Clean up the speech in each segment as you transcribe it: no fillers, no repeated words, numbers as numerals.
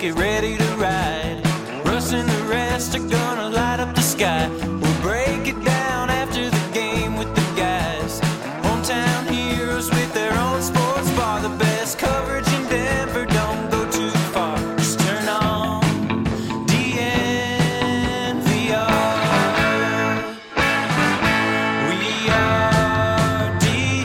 get ready to ride. Russ and the rest are gonna light up the sky. We'll break it down after the game with the guys. Hometown heroes with their own sports bar. The best coverage in Denver, don't go too far. Just turn on DNVR. We are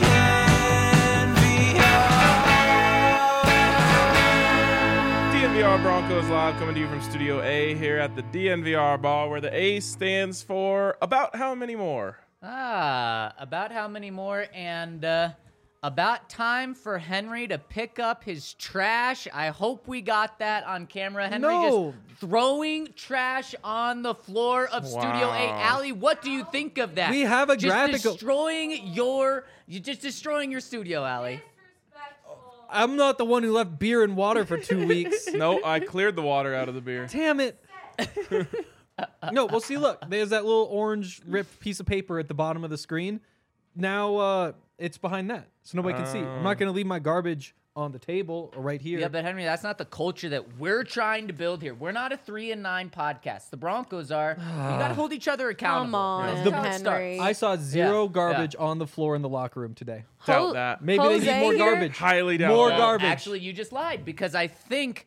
DNVR Broncos Live, coming to you from Studio A here at the DNVR Bar, where the A stands for about how many more? About how many more, and about time for Henry to pick up his trash. I hope we got that on camera. Henry just throwing trash on the floor of Studio A. Allie, what do you think of that? We have a graphical. You're just destroying your studio, Allie. I'm not the one who left beer and water for 2 weeks. No, I cleared the water out of the beer. Damn it. No, well, see, look, there's that little orange ripped piece of paper at the bottom of the screen. Now it's behind that, so nobody can see. I'm not going to leave my garbage on the table or right here. Yeah, but Henry, that's not the culture that we're trying to build here. We're not a 3 and 9 podcast. The Broncos are. You got to hold each other accountable. Come on, That's how it starts. Henry. I saw zero garbage on the floor in the locker room today. Doubt that. Maybe they Jose need more here? garbage. Highly doubt More that. garbage. Actually, you just lied, because I think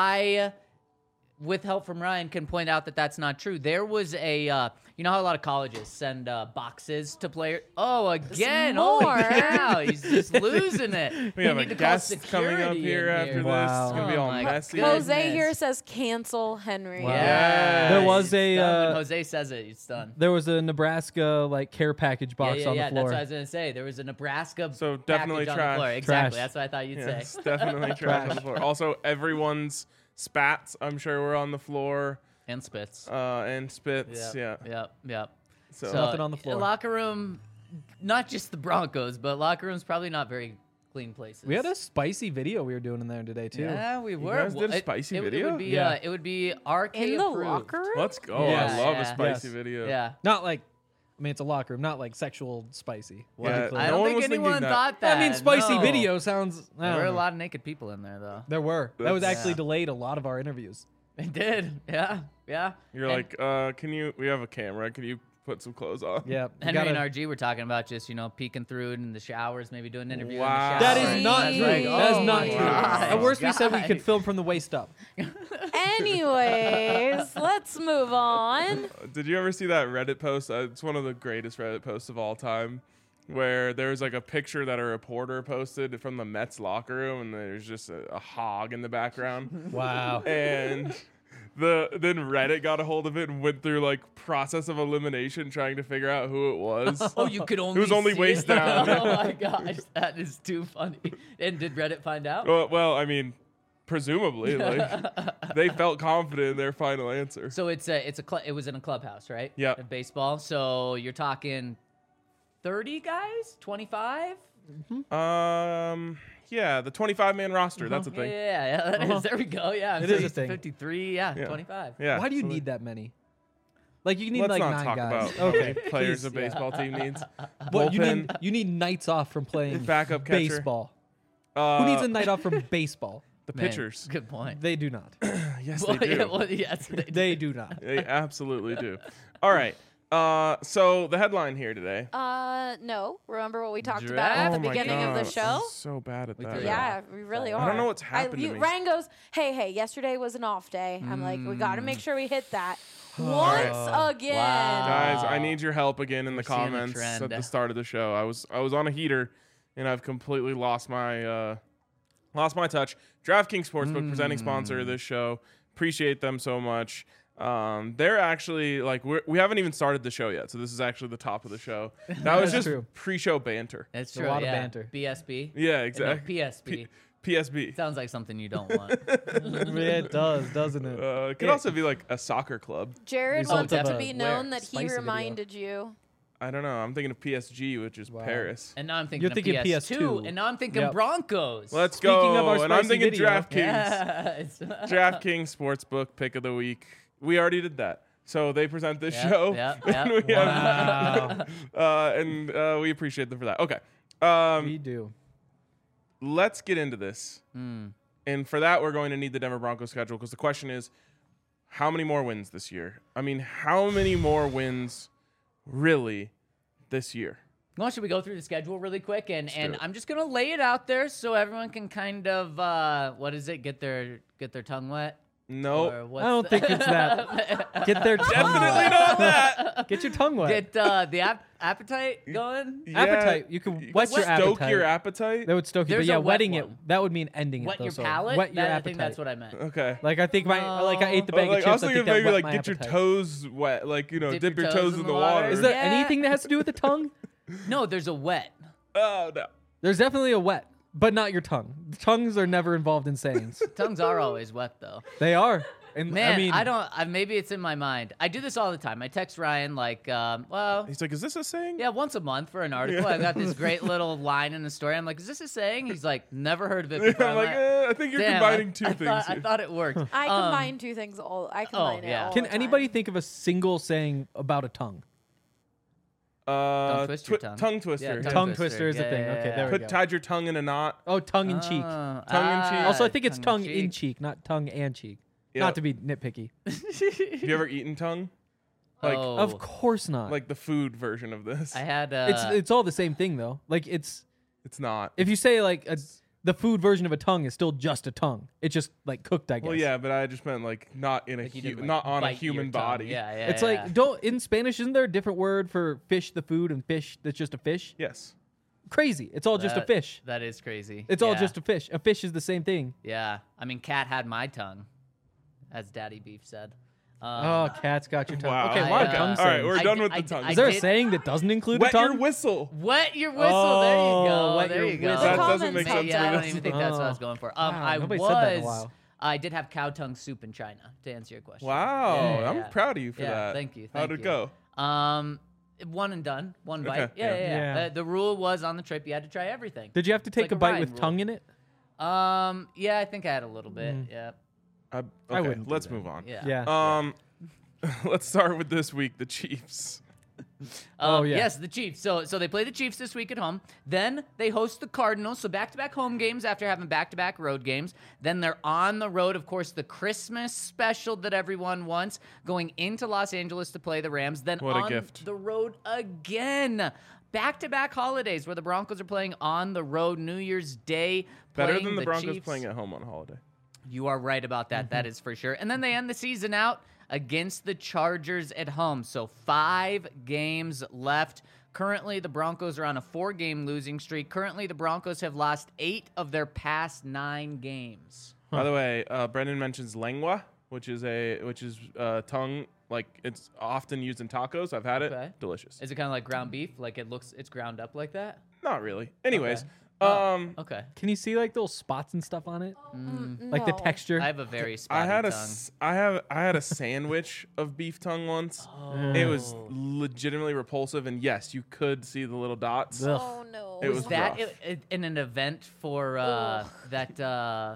with help from Ryan, can point out that that's not true. There was a, you know how a lot of colleges send boxes to players? Oh, again. More. Holy cow. He's just losing it. We have need a to call guest coming up security here in after this. Wow. It's going to be Oh all my messy. goodness. Jose here says cancel Henry. Wow. Yeah. There was It's done. When a Jose says it, it's done. there was a Nebraska care package box on the That's floor. what I was going to say. There was a Nebraska So definitely package on the trash. floor. Exactly. Trash. That's what I thought you'd Yes, say. definitely trash on the floor. Also, everyone's spats, I'm sure, were on the floor. And spits. And spits, yeah. Yep. So, Nothing on the floor. Locker room, not just the Broncos, but locker room's probably not very clean places. We had a spicy video we were doing in there today too. Yeah, we were. guys did a It- spicy it video? would be, Yeah. it would be RK In the approved. locker room? let's go. Yes. I love Yeah. a spicy Yes. video. Yeah. Not like, I mean, it's a locker room, not like sexual spicy. Yeah, Like, I No don't one think was thinking anyone that. thought that. I mean, spicy no. video sounds. I There don't were a know. lot of naked people in there, though. There were. That was That's- actually Yeah. delayed a lot of our interviews. It did. Yeah. You're And like, we have a camera. Can you put some clothes on? Yeah. we Henry gotta- and RG were talking about just, peeking through in the showers, maybe doing an interview Wow. in the That shower. is not That's true. right. That is Oh not my true. gosh, At worst, we said we could guys. film from the waist up. Anyways, let's move on. Did you ever see that Reddit post? It's one of the greatest Reddit posts of all time, where there's like a picture that a reporter posted from the Mets locker room, and there's just a hog in the background. Wow. And then Reddit got a hold of it and went through like process of elimination trying to figure out who it was. Oh, you could only It was only see waist it? down. Oh, my gosh. That is too funny. And did Reddit find out? Well, I mean, presumably, like they felt confident in their final answer. So it was in a clubhouse, right? Yeah. At baseball. So you're talking 30 guys? 25? Yeah, the 25-man roster. That's a thing. Yeah, that is. There we go. Yeah. It So is a used to thing. 53. Yeah, 25. Yeah. Why do you so need that many? Like you need Let's like not 9 talk guys. about how many Okay. players please. a baseball team needs. What, Bullpen. you need nights off from playing Backup catcher. baseball. Uh, Who needs a night off from baseball? The Man, pitchers. Good point. They do not. Yes, Well, they do. yeah, well, yes, they do. They do not. They absolutely do. All right. So the headline here today. No. Remember what we talked about at Draft. the Oh my beginning of the God, show? I'm so bad at We that. threw Yeah, we really are. I don't know what's happened to me. Ryan goes, hey, yesterday was an off day. I'm like, we got to make sure we hit that once again. Wow. Guys, I need your help again in the seeing a comments trend. at the start of the show. I was on a heater, and I've completely lost my touch. DraftKings Sportsbook, presenting sponsor of this show. Appreciate them so much. They're actually like we haven't even started the show yet, so this is actually the top of the show. That was That's just true. pre-show banter. That's a true. lot of yeah. banter. BSB. Yeah, No, exactly. PSB. PSB. Sounds like something you don't want. It does, doesn't it? It could also be like a soccer club. Jared Result wants it of to a be known where? that he Spicy video. reminded you. I don't know. I'm thinking of PSG, which is Wow. Paris. And now I'm thinking You're of thinking PS2, PS2. and now I'm thinking Yep. Broncos. Let's Speaking go. of our and I'm spicy thinking video. DraftKings. Yes. DraftKings Sportsbook pick of the week. We already did that. So they present this Yep, show. yep, and yep. we Wow. and we appreciate them for that. Okay. We do. Let's get into this. And for that, we're going to need the Denver Broncos schedule because the question is, how many more wins this year? I mean, how many more wins really this year? Well, should we go through the schedule really quick? And do it. I'm just going to lay it out there so everyone can kind of, what is it, get their tongue wet? No. Or I what's don't think it's that. Get their tongue Definitely wet. not that. Get your tongue wet. Get the appetite going? Yeah, Appetite. You can whet your stoke appetite. your appetite. That would stoke you. But There's yeah, a wet wetting one. it, that would mean ending Wet it. Though, your so palate? Wet your I appetite. think that's what I meant. Okay. Like I think like I ate the bag Like, of I was chips. I thinking think that maybe wet like my get your appetite. toes wet, like dip your toes in the water. Is there Yeah. anything that has to do with the tongue? No, there's a wet. Oh no. There's definitely a wet, but not your tongue. Tongues are never involved in sayings. Tongues are always wet, though. They are. And Man, I mean, maybe it's in my mind. I do this all the time. I text Ryan like, well, He's like, is this a saying? yeah, once a month for an article. I got this great little line in the story. I'm like, is this a saying? He's like, never heard of it before. I'm like, I think you're damn, combining two I things. Thought, here. I thought it worked. I combine two things I combine it yeah. all can the anybody time. think of a single saying about a tongue? Don't twist your tongue. Tongue twister. Yeah, Yeah. Tongue twister is a Yeah, thing. yeah, Okay, yeah. there we go. Tied your tongue in a knot. Oh, tongue in cheek. Tongue in cheek. Also, I think it's tongue in tongue-in-cheek. cheek, not tongue and cheek. Yep. Not to be nitpicky. Have you ever eaten tongue? Like, Oh. Of course not. like the food version of this. I had. it's all the same thing though. Like It's not. if you say like the food version of a tongue is still just a tongue. It's just like cooked, I guess. Well, yeah, but I just meant like not in a like you didn't, like, not on a bite your human tongue. body. Yeah, yeah. It's yeah. like don't in Spanish isn't there a different word for fish the food and fish that's just a fish? Yes. Crazy. It's all just a That- fish. That is crazy. It's all Yeah. just a fish. A fish is the same thing. Yeah. I mean, Cat had my tongue, as Daddy Beef said. Oh, cat's got your tongue. Wow. Okay, a lot of I, tongue All right, sayings. we're I done did- with I the tongue. did- Is there a did- saying that doesn't include Wet a tongue? your whistle. Wet your whistle. There you Oh, go. wet There your you go. whistle. That The doesn't make common sense Yeah, to I me. don't even think that's what I was going for. Wow, I nobody said that in a was. while. I did have cow tongue soup in China. To answer your question. Wow, Yeah, yeah, I'm yeah. proud of you for Yeah, that. thank you, How'd thank it you. go? One and done. One Okay, bite. Yeah, yeah. yeah, yeah. Yeah. The rule was on the trip you had to try everything. Did you have to take like a a bite Ryan with rule. tongue in it? Yeah, I think I had a little bit. Yeah. Okay, wouldn't do let's that. move on. Yeah. Yeah. Let's start with this week, the Chiefs. Oh, yeah. Yes, the Chiefs. So they play the Chiefs this week at home. Then they host the Cardinals. So back-to-back home games after having back-to-back road games. Then they're on the road, of course, the Christmas special that everyone wants, going into Los Angeles to play the Rams. Then What a on gift. the road again. Back-to-back holidays where the Broncos are playing on the road New Year's Day. Better playing than the Broncos Chiefs. playing at home on holiday. You are right about that. That is for sure. And then they end the season out against the Chargers at home. So 5 games left. Currently, the Broncos are on a 4-game losing streak. Currently, the Broncos have lost 8 of their past 9 games. By the way, Brendan mentions lengua, which is tongue. Like it's often used in tacos. I've had it. Okay. Delicious. Is it kind of like ground beef? Like it's ground up like that? Not really. Anyways, Okay. Can you see like little spots and stuff on it? Like the No. texture? I have a very spotty I had a tongue. I had a sandwich of beef tongue once. It was legitimately repulsive, and yes, you could see the little dots. Ugh. Oh no. It was that rough. in an event for that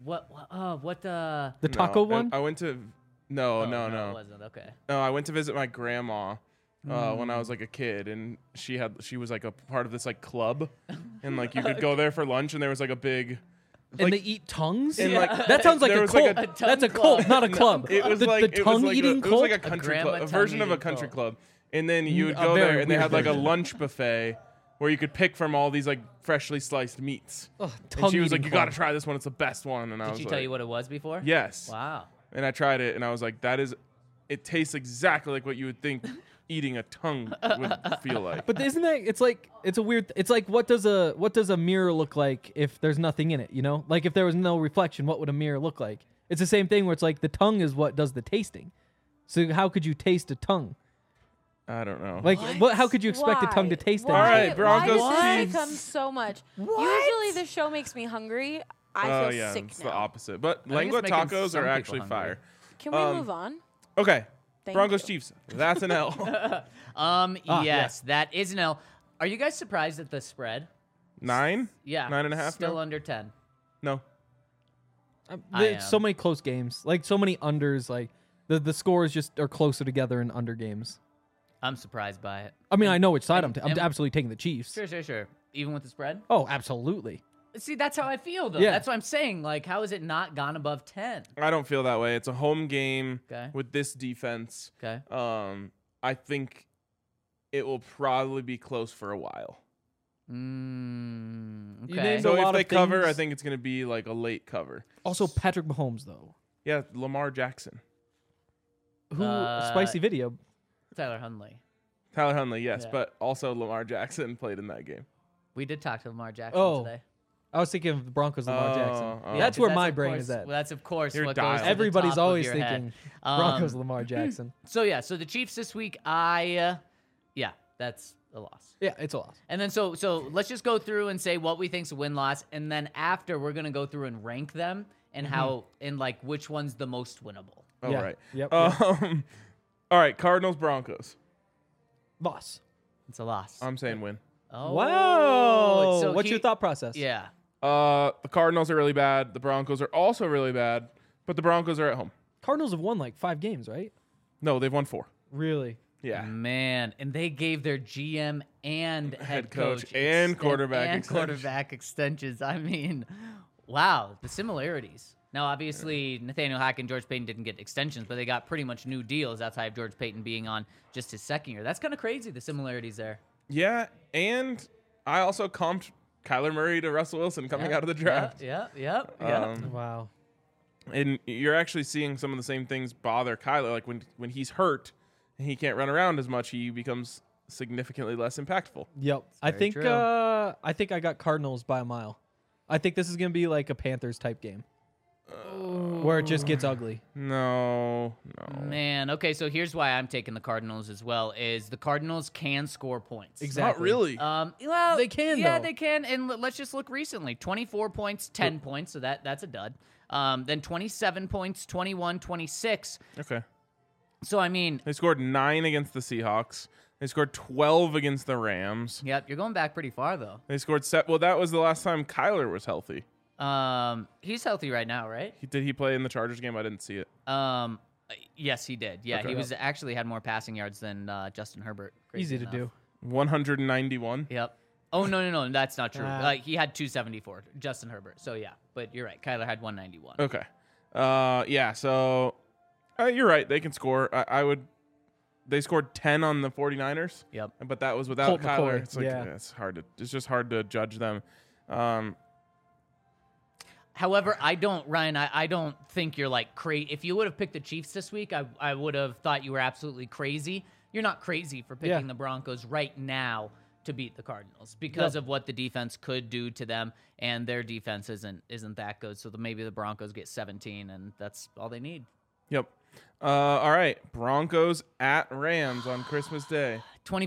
what The taco one? I went to no. it wasn't. Okay. No, I went to visit my grandma when I was like a kid, and she was like a part of this like club, and like you could go there for lunch, and there was like a big. And Like, they eat tongues? and, like, that sounds like there a was, like, cult. a tongue That's a club. cult, not a club. It was the, like the it was tongue like eating it was cult? like a country grandma club, a version of a tongue-eating country cult. club, and then you would A go very there, and they weird had like a version. lunch buffet where you could pick from all these like freshly sliced meats. Ugh, And she was like, tongue-eating "You got to cult. try this one; it's the best one." And I Did was she like, tell you what it was before? "Yes." Wow. And I tried it, and I was like, it tastes exactly like what you would think eating a tongue would feel like." But isn't that it's like it's a weird it's like what does a mirror look like if there's nothing in it, you know? Like if there was no reflection, what would a mirror look like? It's the same thing where it's like the tongue is what does the tasting. So how could you taste a tongue? I don't know. Like how could you expect a tongue to Why? taste Why? that? All right, Broncos, Why does this Chiefs. become so much? Usually the show makes me hungry. I Oh feel yeah, sick it's now. the opposite. But think lengua it's making tacos some are people actually hungry. fire. Can we move on? Okay, Thank Broncos you. Chiefs. That's an L. Yes, that is an L. Are you guys surprised at the spread? 9? Yeah. 9.5 Still now? under 10. No. There's so many close games. Like so many unders, like the scores just are closer together in under games. I'm surprised by it. I mean, I know which side I'm and- absolutely taking the Chiefs. Sure. Even with the spread? Oh, absolutely. See, that's how I feel, though. Yeah. That's what I'm saying. Like, how has it not gone above 10? I don't feel that way. It's a home game Okay. with this defense. Okay. I think it will probably be close for a while. Okay. named So a lot if they of cover, I things. think it's going to be like a late cover. Also, Patrick Mahomes, though. Yeah, Lamar Jackson. Who spicy video. Tyler Huntley. Tyler Huntley, yes, Yeah. but also Lamar Jackson played in that game. We did talk to Lamar Jackson today. I was thinking of the Broncos, Lamar Jackson. Yeah, That's 'cause where my of brain course- is at. Well, that's, of course, You're what dialed. goes to the Everybody's top of always your thinking head. Broncos, Lamar Jackson. So the Chiefs this week, that's a loss. Yeah, it's a loss. And then so let's just go through and say what we think's a win-loss, and then after we're gonna go through and rank them and how and like which one's the most winnable. Oh, Yeah. right. Yep. All right, Cardinals, Broncos. Loss. It's a loss. I'm saying win. Oh, Wow. so What's your thought process? Yeah. The Cardinals are really bad. The Broncos are also really bad, but the Broncos are at home. Cardinals have won like 5 games, right? No, they've won 4. Really? Yeah. Man, and they gave their GM and head coach coach and quarterback and extension. quarterback extensions. I mean, wow, the similarities. Now, obviously, Nathaniel Hackett and George Payton didn't get extensions, but they got pretty much new deals outside of George Payton being on just his second year. That's kind of crazy, the similarities there. Yeah, and I also comped Kyler Murray to Russell Wilson coming out of the draft. Yeah. Wow. And you're actually seeing some of the same things bother Kyler. Like when he's hurt and he can't run around as much, he becomes significantly less impactful. Yep. I very think true. I think I got Cardinals by a mile. I think this is going to be like a Panthers type game. Where it just gets ugly. No. Man, okay, so here's why I'm taking the Cardinals as well, is the Cardinals can score points. Exactly. Not really. Well, They can, Yeah, though. they can. And let's just look recently. 24 points, 10 points, so that's a dud. Then 27 points, 21, 26. Okay. So, I mean, They scored 9 against the Seahawks. They scored 12 against the Rams. yep, you're going back pretty far, though. They scored well, that was the last time Kyler was healthy. He's healthy right now, right? Did he play in the Chargers game? I didn't see it. Yes, he did. Yeah, Okay. he was actually had more passing yards than Justin Herbert. Easy Crazy to enough. do. 191. Yep. Oh, no, that's not true. Ah. He had 274, Justin Herbert. So, yeah, but you're right. Kyler had 191. Okay. Yeah, so you're right. They can score. They scored 10 on the 49ers. Yep. But that was without Colt Kyler. McCoy, It's like yeah. it's just hard to judge them. However, I don't think you're like crazy. If you would have picked the Chiefs this week, I would have thought you were absolutely crazy. You're not crazy for picking Yeah. the Broncos right now to beat the Cardinals because of what the defense could do to them, and their defense isn't that good. So maybe the Broncos get 17, and that's all they need. Yep. All right. Broncos at Rams on Christmas Day.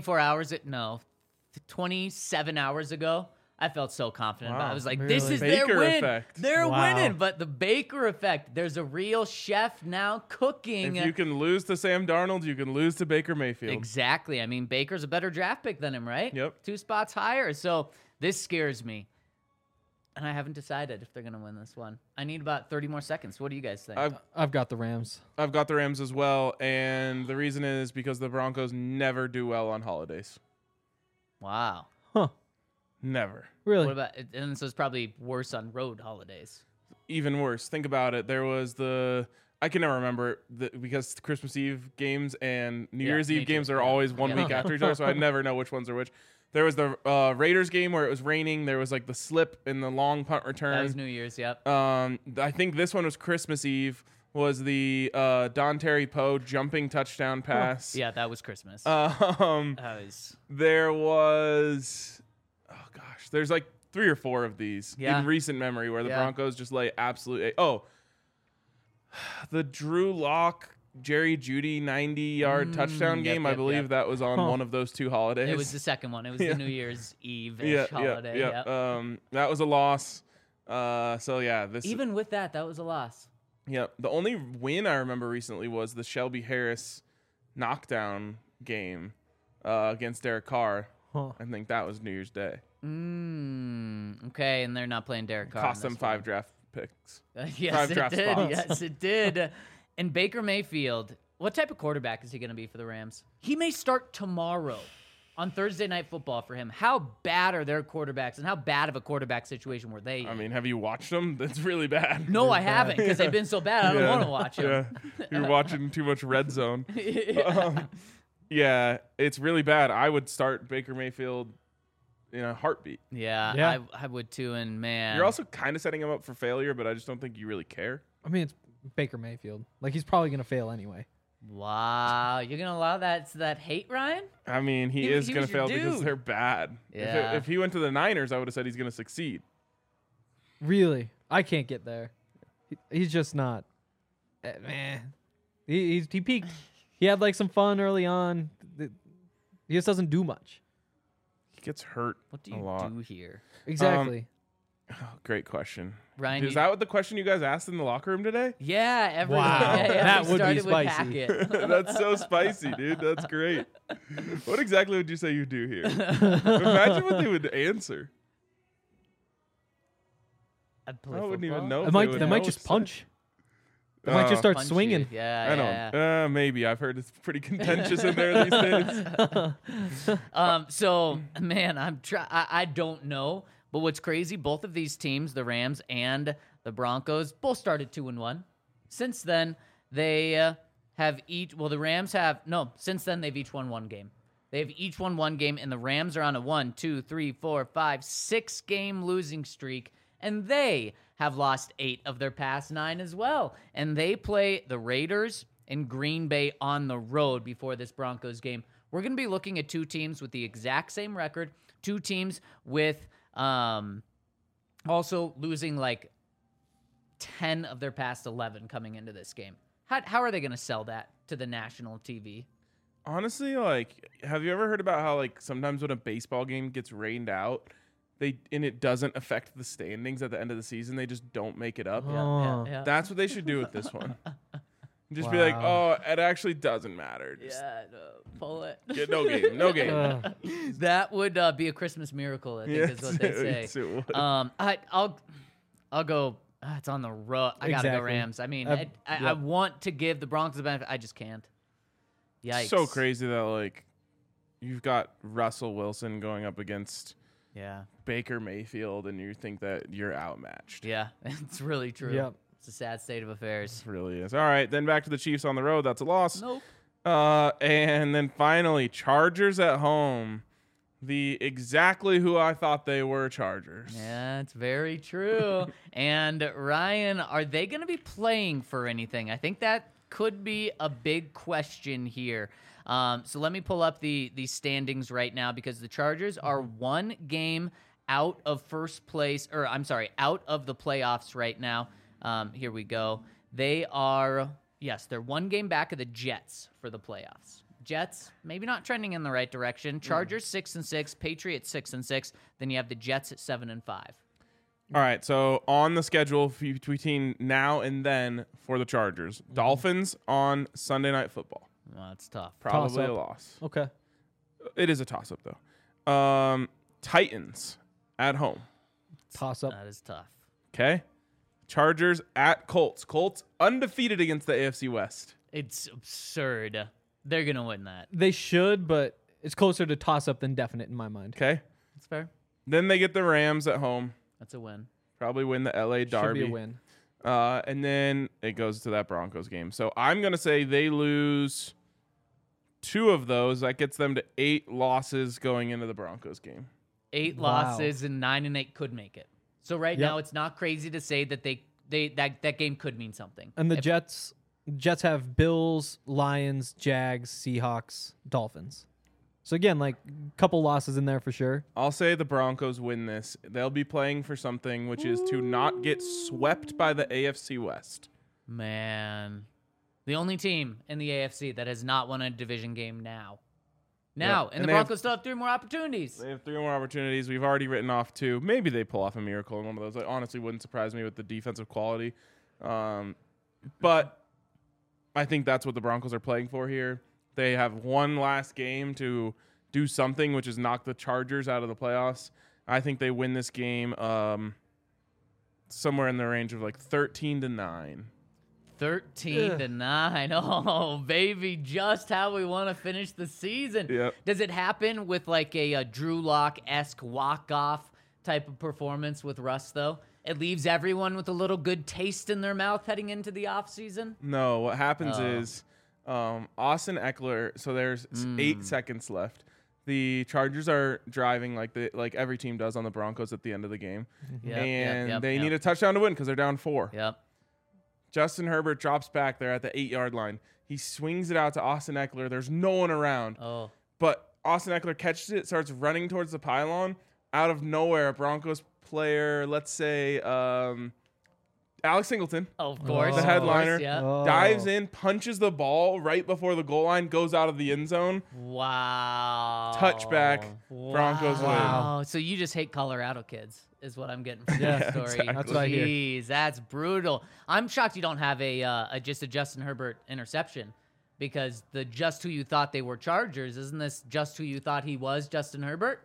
27 hours ago, I felt so confident about it. I was like, Really? this is Baker their win. effect. They're Wow. winning. But the Baker effect, there's a real chef now cooking. If you can lose to Sam Darnold, you can lose to Baker Mayfield. Exactly. I mean, Baker's a better draft pick than him, right? Yep. 2 spots higher. So this scares me. And I haven't decided if they're going to win this one. I need about 30 more seconds. What do you guys think? I've got the Rams. I've got the Rams as well, and the reason is because the Broncos never do well on holidays. Wow. Huh. Never. Really? What about, and so it's probably worse on road holidays. Even worse. Think about it. There was I can never remember because Christmas Eve games and New Yeah, Year's me Eve games too. are Yeah. always one Yeah. week after each other, so I never know which ones are which. There was the Raiders game where it was raining. There was like the slip in the long punt return. That was New Year's, yep. I think this one was Christmas Eve. Was the Don Terry Poe jumping touchdown pass? Yeah, that was Christmas. Um, That was, there was, oh gosh, there's like 3 or 4 of these Yeah. in recent memory where the Yeah. Broncos just lay absolute. Oh, the Drew Lock, Jerry Jeudy 90-yard touchdown game. I yep, believe yep. that was on one of those 2 holidays. it was the second one. It was Yeah. the New Year's Eve-ish yeah, holiday. yeah. Yep. That was a loss. So yeah, this Even with that was a loss. Yeah, the only win I remember recently was the Shelby Harris knockdown game against Derek Carr. Huh. I think that was New Year's Day. Okay, and they're not playing Derek Carr. Cost in them this 5 draft picks. one. Yes, 5 it draft did. spots. Yes, it did. And Baker Mayfield, what type of quarterback is he going to be for the Rams? He may start tomorrow. on Thursday Night Football for him. How bad are their quarterbacks, and how bad of a quarterback situation were they I in? mean, have you watched them? That's really bad. No, I haven't, because they've been so bad. I don't want to watch them. Yeah, you're watching too much Red Zone. Yeah, it's really bad. I would start Baker Mayfield in a heartbeat. Yeah. I would too, and man. You're also kind of setting him up for failure, but I just don't think you really care. I mean, it's Baker Mayfield. Like, he's probably gonna fail anyway. Wow, you're gonna allow that hate, Ryan? I mean, he He is was going to your fail because dude. they're bad. Yeah. If he went to the Niners, I would have said he's going to succeed. Really, I can't get there. He's just not. Man, he peaked. He had like some fun early on. He just doesn't do much. He gets hurt What do a you lot. do here, Exactly. Oh, great question. Ryan? Is that what the question you guys asked in the locker room today? Yeah, everyone. Wow, Yeah, that we would be started with spicy. Hackett. That's so spicy, dude. That's great. What exactly would you say you do here? Imagine what they would answer. I'd play I wouldn't football. even know. They if might would they know might what just to say. punch. They might just start Punch swinging. you. Yeah, I yeah. don't. Maybe I've heard it's pretty contentious in there these days. So man, I don't know, but what's crazy? Both of these teams, the Rams and the Broncos, both started 2-1. Since then, they have each. Well, the Rams have no. Since then, they've each won one game. They've each won one game, and the Rams are on a 1, 2, 3, 4, 5, 6 game losing streak, and they have lost 8 of their past 9 as well. And they play the Raiders and Green Bay on the road before this Broncos game. We're going to be looking at 2 teams with the exact same record, 2 teams with also losing like 10 of their past 11 coming into this game. How are they going to sell that to the national TV? Honestly, like, have you ever heard about how, like, sometimes when a baseball game gets rained out, and it doesn't affect the standings at the end of the season, they just don't make it up? Oh. Yeah. That's what they should do with this one. Just be like, oh, Wow. it actually doesn't matter. Just Yeah, no, pull it. get no game, no game. That would be a Christmas miracle, I think is what they say. Yes, it would. I'll go. It's on the road. I gotta go Exactly. Rams. I mean, Yep. I want to give the Broncos the benefit. I just can't. Yikes! So crazy that, like, you've got Russell Wilson going up against Yeah, Baker Mayfield, and you think that you're outmatched. yeah, it's really true. Yep. It's a sad state of affairs. It really is. All right, then back to the Chiefs on the road. That's a loss. Nope. And then finally, Chargers at home. The exactly who I thought they were Chargers. Yeah, it's very true. And Ryan, are they going to be playing for anything? I think that could be a big question here. So let me pull up the standings right now, because the Chargers are 1 game out of first place, or I'm sorry, out of the playoffs right now. Here we go. They are, yes, they're 1 game back of the Jets for the playoffs. Jets maybe not trending in the right direction. Chargers 6-6, Patriots 6-6. Then you have the Jets at 7-5. All right, so on the schedule between now and then for the Chargers, Dolphins on Sunday Night Football. Well, that's tough. Probably a Toss-up. loss. Okay. It is a toss-up, though. Titans at home. Toss up. That is tough. Okay. Chargers at Colts. Colts undefeated against the AFC West. It's absurd. They're going to win that. They should, but it's closer to toss up than definite in my mind. Okay. That's fair. Then they get the Rams at home. That's a win. Probably win the LA Derby. Should be a win. And then it goes to that Broncos game. So I'm going to say they lose 2 of those. That gets them to 8 losses going into the Broncos game. 8 Wow. losses and 9-8 could make it. So right Yep. now it's not crazy to say that that game could mean something. And the If- Jets have Bills, Lions, Jags, Seahawks, Dolphins. So again, like a couple losses in there for sure. I'll say the Broncos win this. They'll be playing for something, which is to not get swept by the AFC West. Man, the only team in the AFC that has not won a division game now. And And the they have- Broncos still have 3 more opportunities. They have 3 more opportunities. We've already written off 2. Maybe they pull off a miracle in one of those. It honestly wouldn't surprise me with the defensive quality. But I think that's what the Broncos are playing for here. They have one last game to do something, which is knock the Chargers out of the playoffs. I think they win this game somewhere in the range of like 13-9. 13-9. Oh, baby, just how we want to finish the season. Yep. Does it happen with like a Drew Lock-esque walk-off type of performance with Russ, though? It leaves everyone with a little good taste in their mouth heading into the offseason? No, what happens is Austin Eckler, so there's 8 seconds left. The Chargers are driving like every team does on the Broncos at the end of the game. They need a touchdown to win because they're down 4. Yep. Justin Herbert drops back there at the 8-yard line. He swings it out to Austin Eckler. There's no one around. Oh. But Austin Eckler catches it, starts running towards the pylon. Out of nowhere, a Broncos player, let's say Alex Singleton, Of course. the of headliner, course, yeah. dives in, punches the ball right before the goal line, goes out of the end zone. Wow. Touchback. Broncos win. Wow. So you just hate Colorado kids, is what I'm getting from that story. exactly. That's what I hear. Jeez, that's brutal. I'm shocked you don't have just a Justin Herbert interception, because the just who you thought they were Chargers, isn't this just who you thought he was, Justin Herbert?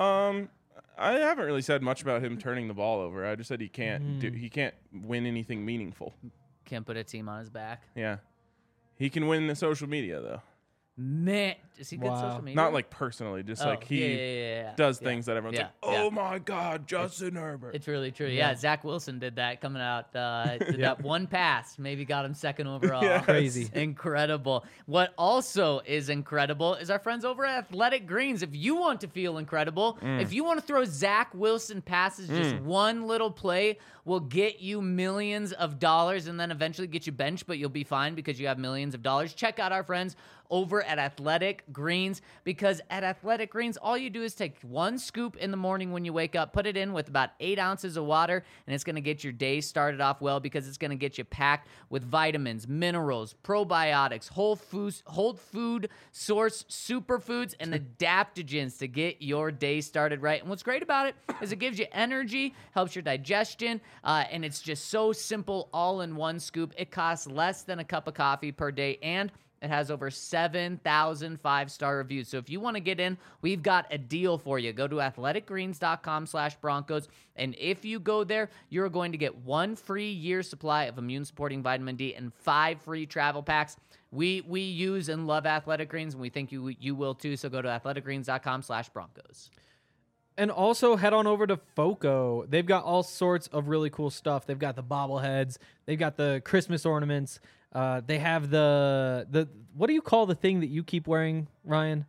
I haven't really said much about him turning the ball over. I just said he can't he can't win anything meaningful. Can't put a team on his back. Yeah. He can win the social media though. Man, is he good Wow. social media? Not like personally, just like he yeah. does things that everyone's Yeah. like, "Oh my god, Justin Herbert." It's really true. Yeah, Zach Wilson did that coming out. Did that one pass, maybe got him second overall. Yes. Crazy. Incredible. What also is incredible is our friends over at Athletic Greens. If you want to feel incredible, if you want to throw Zach Wilson passes, just one little play will get you millions of dollars and then eventually get you benched, but you'll be fine because you have millions of dollars. Check out our friends over at Athletic Greens, because at Athletic Greens, all you do is take 1 scoop in the morning when you wake up, put it in with about 8 ounces of water, and it's going to get your day started off well, because it's going to get you packed with vitamins, minerals, probiotics, whole food source superfoods, and adaptogens to get your day started right. And what's great about it is it gives you energy, helps your digestion, and it's just so simple, all in 1 scoop. It costs less than a cup of coffee per day, and it has over 7,000 5-star reviews. So if you want to get in, we've got a deal for you. Go to athleticgreens.com/Broncos. And if you go there, you're going to get 1 free year supply of immune-supporting vitamin D and 5 free travel packs. We use and love Athletic Greens, and we think you will too. So go to athleticgreens.com/Broncos. And also head on over to FOCO. They've got all sorts of really cool stuff. They've got the bobbleheads. They've got the Christmas ornaments. They have the what do you call the thing that you keep wearing, Ryan?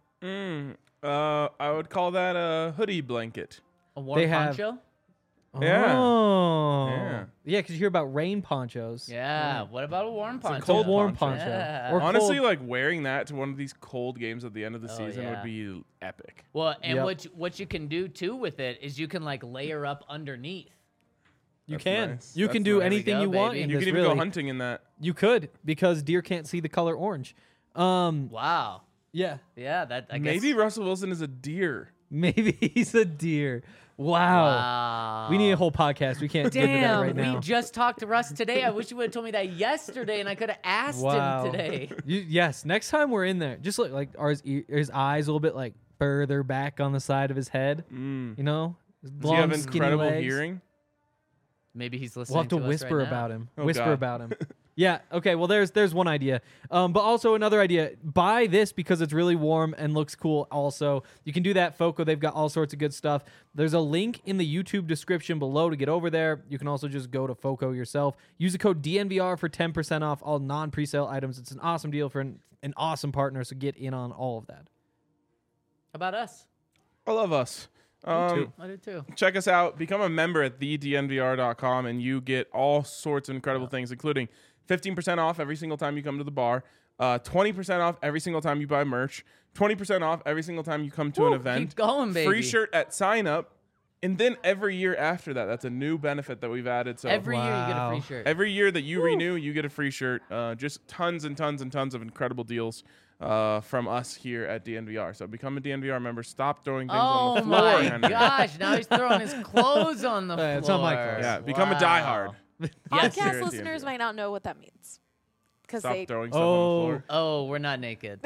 I would call that a hoodie blanket. A warm They have- poncho? Yeah. Oh. Yeah. Yeah, because you hear about rain ponchos. Yeah. What about a warm poncho? cold Warm poncho. poncho. Yeah. Or Honestly, cold- like wearing that to one of these cold games at the end of the season yeah. would be epic. Well, and Yep. what you can do too with it is you can like layer up underneath. you That's can. nice. You That's can do nice. anything There we you go, want baby. in You this, can even really. go hunting in that. You could, because deer can't see the color orange. Wow. Yeah. Yeah, that I guess. Maybe Russell Wilson is a deer. Maybe he's a deer. Wow. Wow. We need a whole podcast. We can't get into that Damn, right now. we just talked to Russ today. I wish you would have told me that yesterday, and I could have asked Wow. him today. Yes, next time we're in there, just look like are his eyes a little bit like further back on the side of his head. You know, his Does he have long, skinny incredible legs. hearing? Maybe he's listening. We'll have to us whisper right now. about him. Oh, Whisper God. about him. Yeah. Okay. Well, there's one idea. But also another idea. Buy this because it's really warm and looks cool. Also, you can do that. FOCO. They've got all sorts of good stuff. There's a link in the YouTube description below to get over there. You can also just go to FOCO yourself. Use the code DNVR for 10% off all non-presale items. It's an awesome deal for an awesome partner. So get in on all of that. How about us? I love us. too. I do too. Check us out. Become a member at thednvr.com, and you get all sorts of incredible things, including 15% off every single time you come to the bar, 20% off every single time you buy merch, 20% off every single time you come to an event. Keep going, baby. Free shirt at sign up, and then every year after that. That's a new benefit that we've added. So Every year you get a Wow. free shirt. every year that you renew, you get a free shirt. Just tons and tons and tons of incredible deals from us here at DNVR. So become a DNVR member. Stop throwing things Oh on the floor. my Henry. gosh! Now he's throwing his clothes on the floor. It's not my clothes. Yeah, become a Wow. diehard. Yes, Podcast here at listeners DNVR. might not know what that means because Stop they. throwing stuff on the floor. Oh, we're not naked.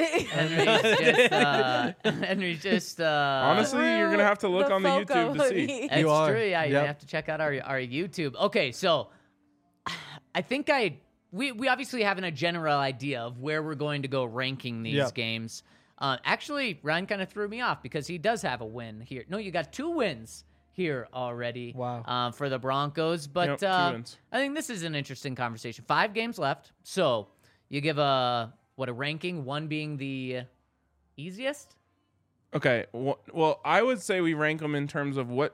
Henry's just Honestly, you're gonna have to look on the YouTube to see. It's You are. true. Yeah, you Yep. have to check out our YouTube. Okay, so I think I we obviously have a general idea of where we're going to go ranking these Yep. games. Actually, Ryan kind of threw me off because he does have a win here. No, you got 2 wins here already. Wow. For the Broncos, but Yep, 2 wins. I think this is an interesting conversation. 5 games left, so you give a ranking, 1 being the easiest. Okay. Well, I would say we rank them in terms of what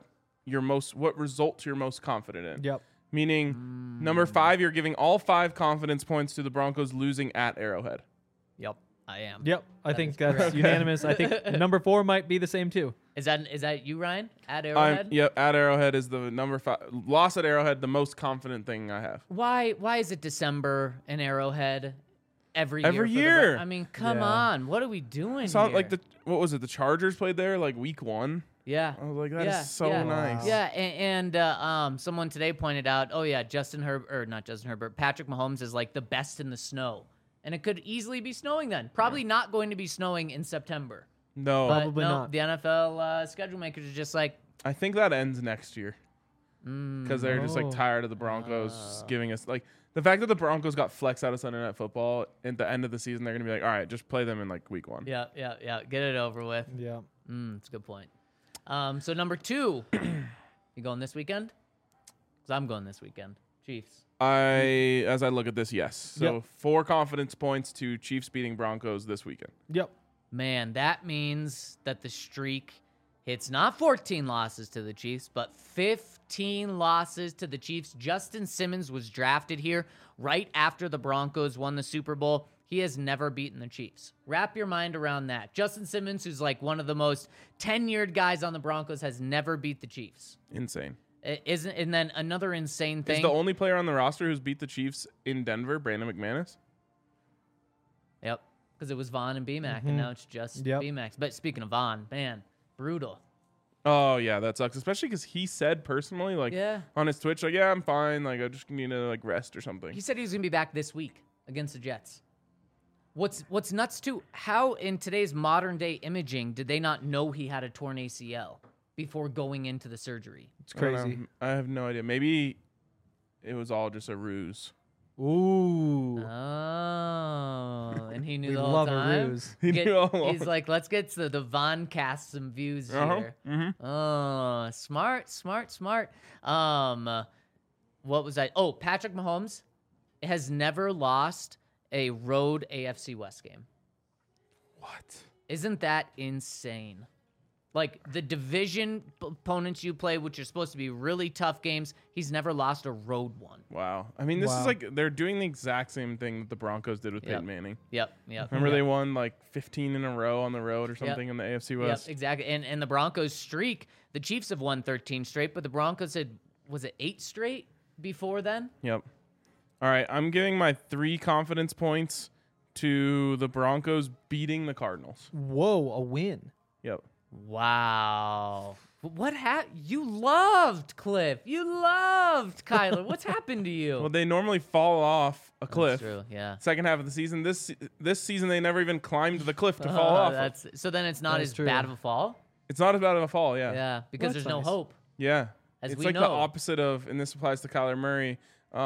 results you're most confident in. Yep. Meaning, number 5, you're giving all 5 confidence points to the Broncos losing at Arrowhead. Yep, I am. Yep. I think that's unanimous. I think number 4 might be the same too. Is that you, Ryan? At Arrowhead? Yep. At Arrowhead is the number 5. Loss at Arrowhead, the most confident thing I have. Why is it December in Arrowhead every year? Every for the year. I mean, come Yeah. on. What are we doing It's not here? like what was it? The Chargers played there like week 1. Yeah. I was like, that is Yeah, so yeah. nice. Yeah, and someone today pointed out, oh yeah, Patrick Mahomes is like the best in the snow. And it could easily be snowing then. Probably not going to be snowing in September. No, But Probably no, not. the NFL schedule makers are just like, I think that ends next year because they're just like Oh. tired of the Broncos giving us like the fact that the Broncos got flexed out of Sunday Night Football at the end of the season. They're gonna be like, all right, just play them in like week 1. yeah, get it over with. Yeah. That's a good point. So number 2, you going this weekend? Because I'm going this weekend. Chiefs. As I look at this, yes. So Yep. 4 confidence points to Chiefs beating Broncos this weekend. Yep. Man, that means that the streak hits not 14 losses to the Chiefs, but 15 losses to the Chiefs. Justin Simmons was drafted here right after the Broncos won the Super Bowl. He has never beaten the Chiefs. Wrap your mind around that. Justin Simmons, who's like one of the most tenured guys on the Broncos, has never beat the Chiefs. Insane. And then another insane thing. Is the only player on the roster who's beat the Chiefs in Denver Brandon McManus? Yep, because it was Vaughn and BMAC, and now it's just Yep. BMAC. But speaking of Vaughn, man, brutal. Oh yeah, that sucks. Especially because he said personally, like Yeah. on his Twitch, like, yeah, I'm fine. Like I just need to like rest or something. He said he was going to be back this week against the Jets. What's nuts too, how in today's modern day imaging did they not know he had a torn ACL before going into the surgery? It's I don't know. crazy. I have no idea. Maybe it was all just a ruse. Ooh. Oh, and he knew We the whole love time. a ruse. He knew all along. He's like, let's get to the Von cast some views here. Oh, smart. What was I? Oh, Patrick Mahomes has never lost a road AFC West game. What? Isn't that insane? Like the division opponents you play, which are supposed to be really tough games, he's never lost a road one. Wow. I mean, this Wow. is like they're doing the exact same thing that the Broncos did with Yep. Peyton Manning. Yep. Remember they won like 15 in a row on the road or something in the AFC West? Yep, exactly. And the Broncos streak, the Chiefs have won 13 straight, but the Broncos had, was it 8 straight before then? Yep. All right, I'm giving my 3 confidence points to the Broncos beating the Cardinals. Whoa, a win. Yep. Wow. What you loved Cliff. You loved Kyler. What's happened to you? Well, they normally fall off a cliff. That's true, yeah. Second half of the season. This season they never even climbed the cliff to fall off. Of. So then it's not That as is true. bad of a fall? It's not as bad of a fall, yeah. Yeah, because that's there's no nice. hope. Yeah. As It's we like the know. opposite of, and this applies to Kyler Murray.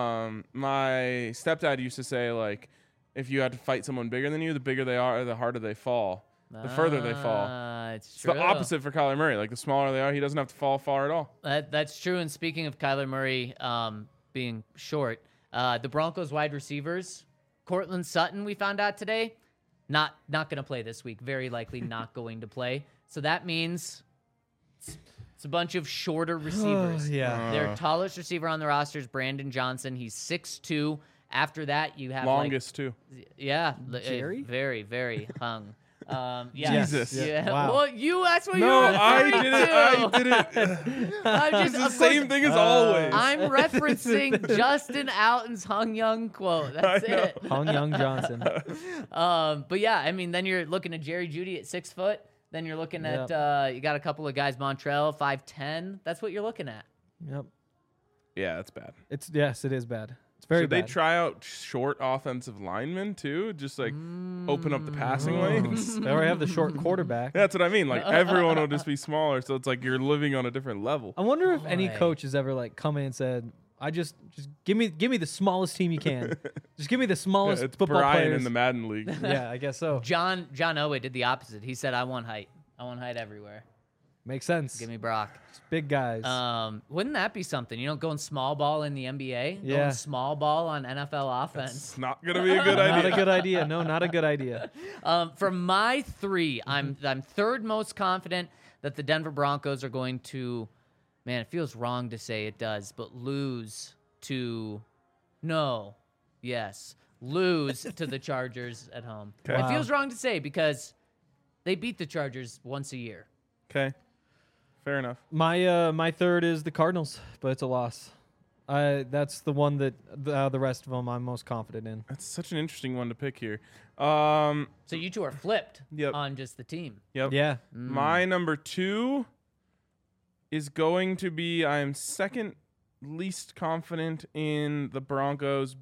My stepdad used to say, like, if you had to fight someone bigger than you, the bigger they are, the harder they fall. The further they fall. It's It's true. the opposite for Kyler Murray. Like, the smaller they are, he doesn't have to fall far at all. That's true. And speaking of Kyler Murray being short, the Broncos wide receivers, Cortland Sutton, we found out today, not going to play this week. Very likely not going to play. So that means it's a bunch of shorter receivers. Yeah. Their tallest receiver on the roster is Brandon Johnson. He's 6'2". After that, you have Longest, too. Jerry? very, very hung. Yeah. Jesus. Yeah. Wow. Well, that's what No, you're I referring didn't. to. I'm just, It's the of course, same thing as always. I'm referencing Justin Alton's Hung Young quote. That's know. it. Hung Young Johnson. But yeah, I mean, then you're looking at Jerry Jeudy at 6 foot. Then you're looking at you got a couple of guys, Montrell 5'10". That's what you're looking at. Yep. Yeah, that's bad. Yes, it is bad. It's very Should they bad. try out short offensive linemen, too? Just, like, open up the passing lanes? They already have the short quarterback. That's what I mean. Like, everyone will just be smaller, so it's like you're living on a different level. I wonder if any Boy. coach has ever like come in and said, I just give me the smallest team you can. Just give me the smallest It's football Brian players. in the Madden League. Yeah, I guess so. John Elway did the opposite. He said, "I want height. I want height everywhere. Makes sense. Give me Brock." Big guys. Wouldn't that be something? Going small ball in the NBA, Yeah. going small ball on NFL offense. It's not gonna be a good Not idea. a good idea. No, not a good idea. For my 3, I'm third most confident that the Denver Broncos are going to. Man, it feels wrong to say it does, but lose to the Chargers at home. Okay. It Wow. feels wrong to say because they beat the Chargers once a year. Okay, fair enough. My third is the Cardinals, but it's a loss. That's the one that the rest of them I'm most confident in. That's such an interesting one to pick here. So you two are flipped Yep. on just the team. Yep. Yeah. My number 2 is going to be I'm second least confident in the Broncos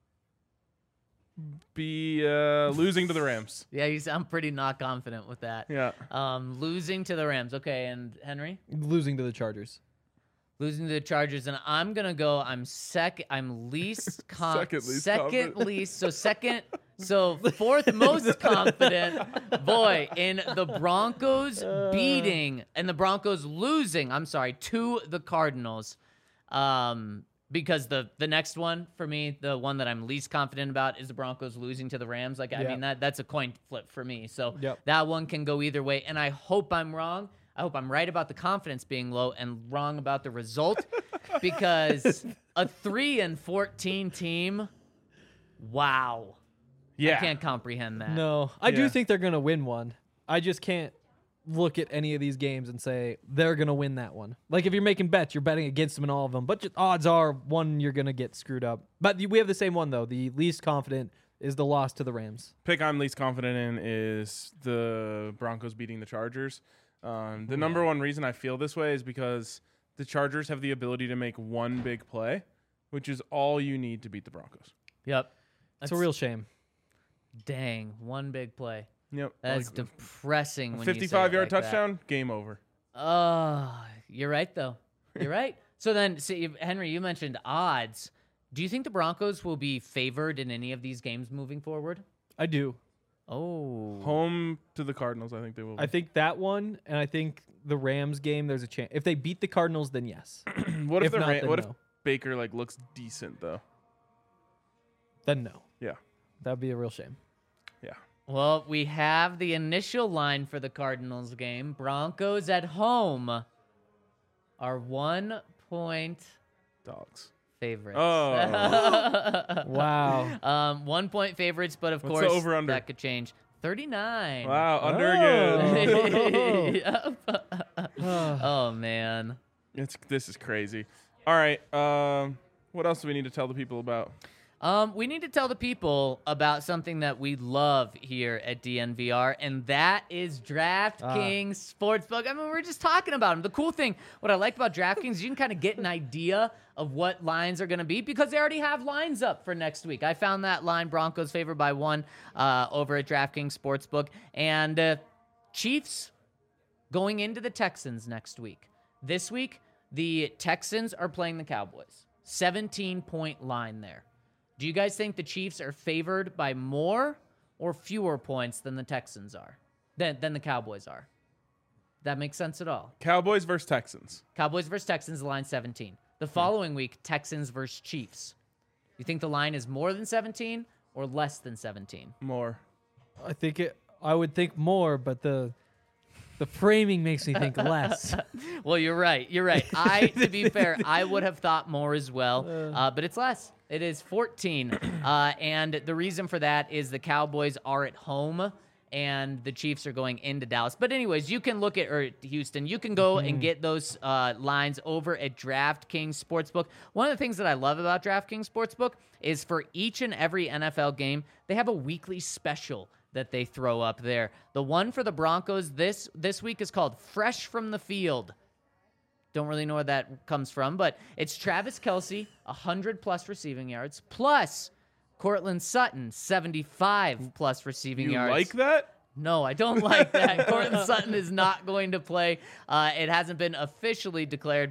losing to the Rams. Yeah, you sound pretty not confident with that. Yeah. Losing to the Rams. Okay, and Henry? Losing to the Chargers. Losing to the Chargers, and I'm gonna go. I'm least Second least second confident. least. So fourth most confident. Boy, in the Broncos beating and the Broncos losing. I'm sorry, to the Cardinals. Because the next one for me, the one that I'm least confident about, is the Broncos losing to the Rams. I Yep. mean that's a coin flip for me. So Yep. that one can go either way, and I hope I'm wrong. I hope I'm right about the confidence being low and wrong about the result, because a 3-14 team, wow. Yeah. I can't comprehend that. No, I do Yeah. think they're gonna win one. I just can't look at any of these games and say they're gonna win that one. Like if you're making bets, you're betting against them in all of them. But just odds are one you're gonna get screwed up. But we have the same one though. The least confident is the loss to the Rams. Pick I'm least confident in is the Broncos beating the Chargers. The number one reason I feel this way is because the Chargers have the ability to make one big play, which is all you need to beat the Broncos. Yep. It's a real shame. Dang, one big play. Yep. That's Like, depressing. a when you say it 55-yard like that. touchdown, game over. Oh, you're right, though. You're right. So then, see, Henry, you mentioned odds. Do you think the Broncos will be favored in any of these games moving forward? I do. Oh. Home to the Cardinals, I think they will. I think that one, and I think the Rams game. There's a chance if they beat the Cardinals, then yes. what if if the not, then what if no. Baker looks decent though? Then no. Yeah. That'd be a real shame. Yeah. Well, we have the initial line for the Cardinals game. Broncos at home are 1-point Dogs. favorites. Oh. Wow. 1-point favorites, but of What's the course over-under? that could change. 39. Wow, under again. Yep. Oh man. This is crazy. All right. What else do we need to tell the people about? We need to tell the people about something that we love here at DNVR, and that is DraftKings Sportsbook. I mean, we're just talking about them. The cool thing, what I like about DraftKings, is you can kind of get an idea of what lines are going to be because they already have lines up for next week. I found that line, Broncos favored by 1 over at DraftKings Sportsbook, and Chiefs going into the Texans next week. This week, the Texans are playing the Cowboys. 17-point line there. Do you guys think the Chiefs are favored by more or fewer points than the Texans are? Than the Cowboys are? That makes sense at all? Cowboys versus Texans. Cowboys versus Texans, the line 17. The following week, Texans versus Chiefs. You think the line is more than 17 or less than 17? More. I would think more, but the framing makes me think less. Well, you're right. You're right. To be fair, I would have thought more as well, but it's less. It is 14, and the reason for that is the Cowboys are at home, and the Chiefs are going into Dallas. But anyways, you can look at Houston. You can go and get those lines over at DraftKings Sportsbook. One of the things that I love about DraftKings Sportsbook is for each and every NFL game, they have a weekly special that they throw up there. The one for the Broncos this week is called Fresh from the Field. Don't really know where that comes from, but it's Travis Kelce, 100-plus receiving yards, plus Cortland Sutton, 75-plus receiving yards. You like that? No, I don't like that. Cortland Sutton is not going to play. It hasn't been officially declared, but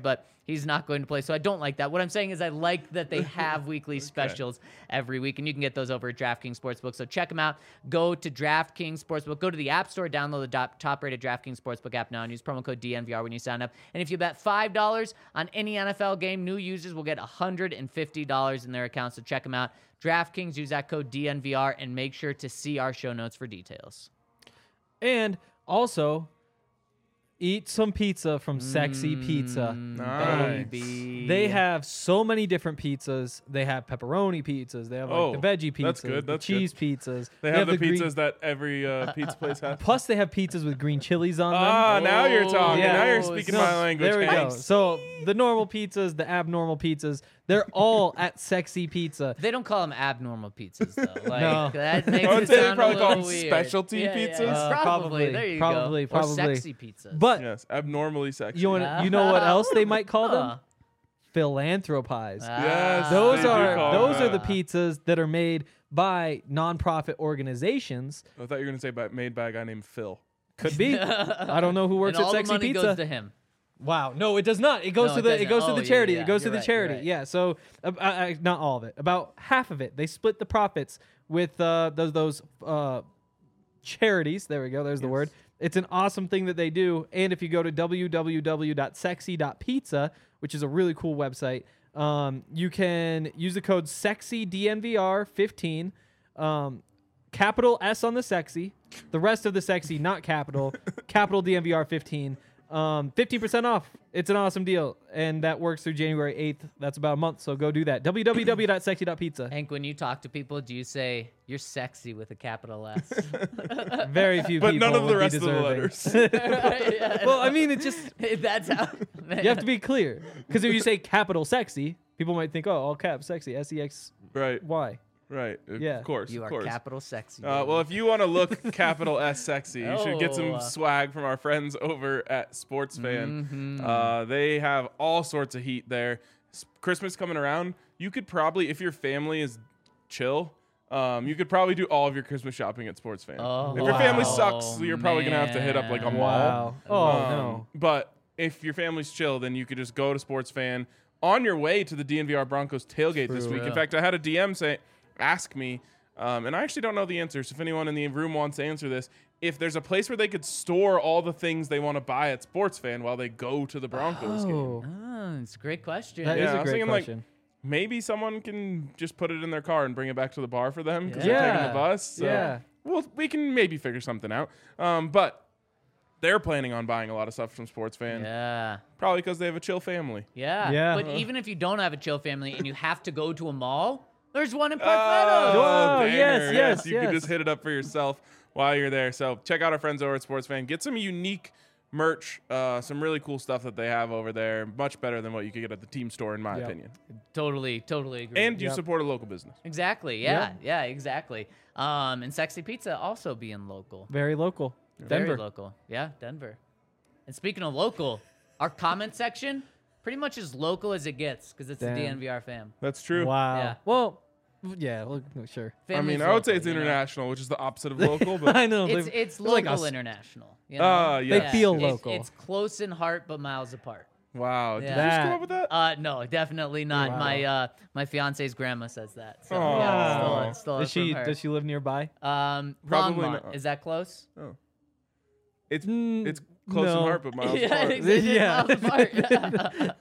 he's not going to play. So I don't like that. What I'm saying is I like that they have weekly specials every week, and you can get those over at DraftKings Sportsbook. So check them out. Go to DraftKings Sportsbook. Go to the App Store, download the top-rated DraftKings Sportsbook app now, and use promo code DNVR when you sign up. And if you bet $5 on any NFL game, new users will get $150 in their account. So check them out. DraftKings, use that code DNVR, and make sure to see our show notes for details. And also, eat some pizza from Sexy Pizza. Nice. Baby. They have so many different pizzas. They have pepperoni pizzas. They have like the veggie pizzas, that's good, the that's cheese pizzas. They have the green- pizzas that every pizza place has. Plus, they have pizzas with green chilies on them. Ah, now you're talking. Yeah. Now you're speaking my language. There we go. Thanks. So the normal pizzas, the abnormal pizzas, they're all at Sexy Pizza. They don't call them abnormal pizzas, though. Like, No. that makes I would it say they sound probably a call little them weird. specialty Yeah, pizzas? probably. Probably. There you Probably. go. Or Probably. sexy pizzas. But Yes, abnormally sexy. you know what else they might call them? Huh. Philanthropies. Yes, Those they do are call those them are the that. pizzas that are made by nonprofit organizations. I thought you were going to say made by a guy named Phil. Could be. I don't know who works and at all Sexy the money Pizza. goes to him. Wow, no, it does not. It goes No, to it the doesn't. it goes to Oh, the yeah, charity. yeah, It goes to you're the right, charity. you're right. Yeah, so not all of it. About half of it. They split the profits with those charities. There we go. There's the word. It's an awesome thing that they do. And if you go to www.sexy.pizza, which is a really cool website, you can use the code SEXYDNVR15. Capital S on the sexy. The rest of the sexy, not capital. Capital DNVR15. 15% off. It's an awesome deal. And that works through January 8th. That's about a month. So go do that. www.sexy.pizza. Hank, when you talk to people, do you say, you're sexy with a capital S? Very few But people. none of the would be rest of the deserving. letters. Well, I mean, it just, That's how. you have to be clear. Because if you say capital sexy, people might think, oh, all caps sexy. SEXY. Right, right. Yeah. Of course, You of are course. capital sexy. Well, if you want to look capital S sexy, you should get some Oh. swag from our friends over at Sports Fan. Mm-hmm. They have all sorts of heat there. Christmas coming around, you could probably, if your family is chill, you could probably do all of your Christmas shopping at Sports Fan. Oh, if your family wow. sucks, you're probably gonna have to hit up like a Man. mall. Wow. Oh, no. But if your family's chill, then you could just go to Sports Fan on your way to the DNVR Broncos tailgate this week. In Yeah. fact, I had a DM ask me, and I actually don't know the answer. So if anyone in the room wants to answer this, if there's a place where they could store all the things they want to buy at Sports Fan while they go to the Broncos game. Oh, Oh, it's a great question. that Yeah, is I a was great thinking, like, question. Maybe someone can just put it in their car and bring it back to the bar for them because Yeah. they're taking the bus. So Yeah. well, we can maybe figure something out. But they're planning on buying a lot of stuff from Sports Fan, Yeah. probably because they have a chill family. Yeah. Yeah. But even if you don't have a chill family and you have to go to a mall, there's one in Park Oh, Meadows. Whoa, banger. yes, You yes. could just hit it up for yourself while you're there. So check out our friends over at Sports Fan. Get some unique merch, some really cool stuff that they have over there. Much better than what you could get at the team store, in my Yep. opinion. Totally agree. And you Yep. support a local business. Exactly. Yeah, exactly. And Sexy Pizza also being local. Very local. Very Denver. local. Yeah, Denver. And speaking of local, our comment section pretty much as local as it gets because it's Damn. the DNVR fam. That's true. Wow. Yeah. Well, yeah, well, sure. I Family's mean, I would say local, it's you know? international, which is the opposite of local. But I know. It's they're local like us. international. You know? Yeah. They feel It's- local. It's close in heart but miles apart. wow. Did Yeah. you just come That- up with that? No, definitely not. Wow. My fiance's grandma says that. So Aw. yeah, stole it Does she from her. does she live nearby? Probably Longmont. not. Is that close? It's close in no. heart, but miles Yeah, apart. it's Yeah. miles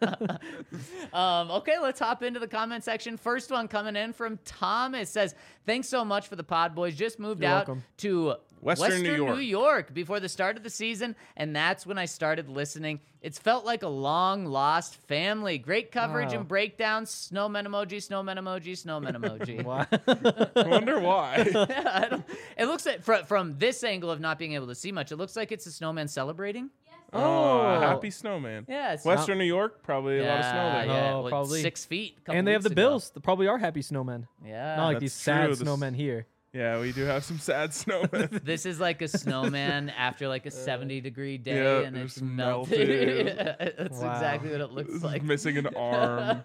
apart. Okay, let's hop into the comment section. First one coming in from Thomas says, "Thanks so much for the pod, boys. Just moved You're out welcome. to Western New York. before the start of the season, and that's when I started listening. It's felt like a long lost family. Great coverage Wow. and breakdowns. Snowman emoji, snowman emoji, snowman emoji." Wow. I wonder why. I don't- it looks like from this angle of not being able to see much, it looks like it's a snowman celebrating. Oh, happy snowman. Yeah, it's Western New York, probably a lot of snow there. Yeah, Oh, what, probably. 6 feet. a couple And they have the weeks ago. Bills. They probably are happy snowmen. Yeah. Not like That's these true. sad This- snowmen here. Yeah, we do have some sad snowmen. This is like a snowman after like a 70-degree day, yeah, and it's just melted. melted. That's Wow. exactly what it looks like. Missing an arm.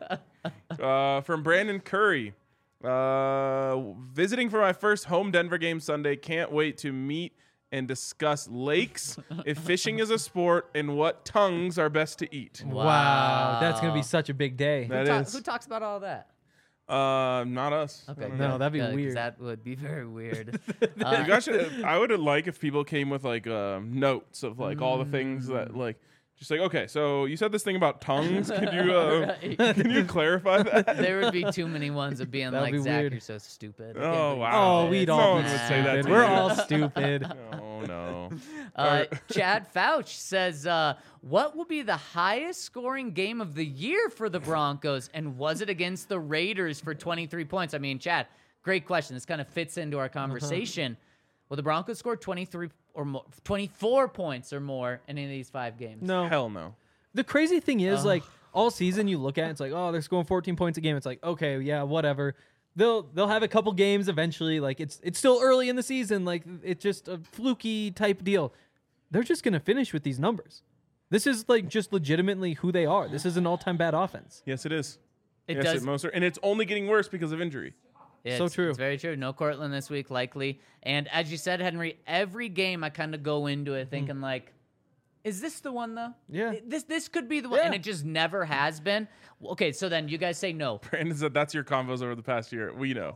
From Brandon Curry. Visiting for my first home Denver game Sunday. Can't wait to meet and discuss lakes, if fishing is a sport, and what tongues are best to eat. Wow, that's gonna be such a big day. That is. Who talks about all that? Not us. Okay, No, good, that'd be good, 'cause weird. That would be very weird. You guys should, I would like if people came with like notes of like all the things that like just like, okay, so you said this thing about tongues. Could you Right. can you clarify that? There would be too many ones of being That'd like, be Zach, weird. you're so stupid. I Oh, can't believe wow. you Oh, said we'd this. No all one be would say that stupid. to We're you. all stupid. Oh no. Chad Fouch says, what will be the highest scoring game of the year for the Broncos? And was it against the Raiders for 23 points? I mean, Chad, great question. This kind of fits into our conversation. Will the Broncos score 23 or more, 24 points or more in any of these 5 games? No. Hell no. The crazy thing is, like, all season you look at it, it's like, oh, they're scoring 14 points a game. It's like, okay, yeah, whatever. They'll have a couple games eventually. Like, it's still early in the season. Like, it's just a fluky type deal. They're just gonna finish with these numbers. This is like just legitimately who they are. This is an all-time bad offense. Yes, it is. It yes, does. and it's only getting worse because of injury. It's, true. It's very true. No Cortland this week, likely. And as you said, Henry, every game I kind of go into it thinking like, is this the one though? Yeah. This could be the one, Yeah. and it just never has been. Okay, so then you guys say no. Brandon said that's your convos over the past year. We know.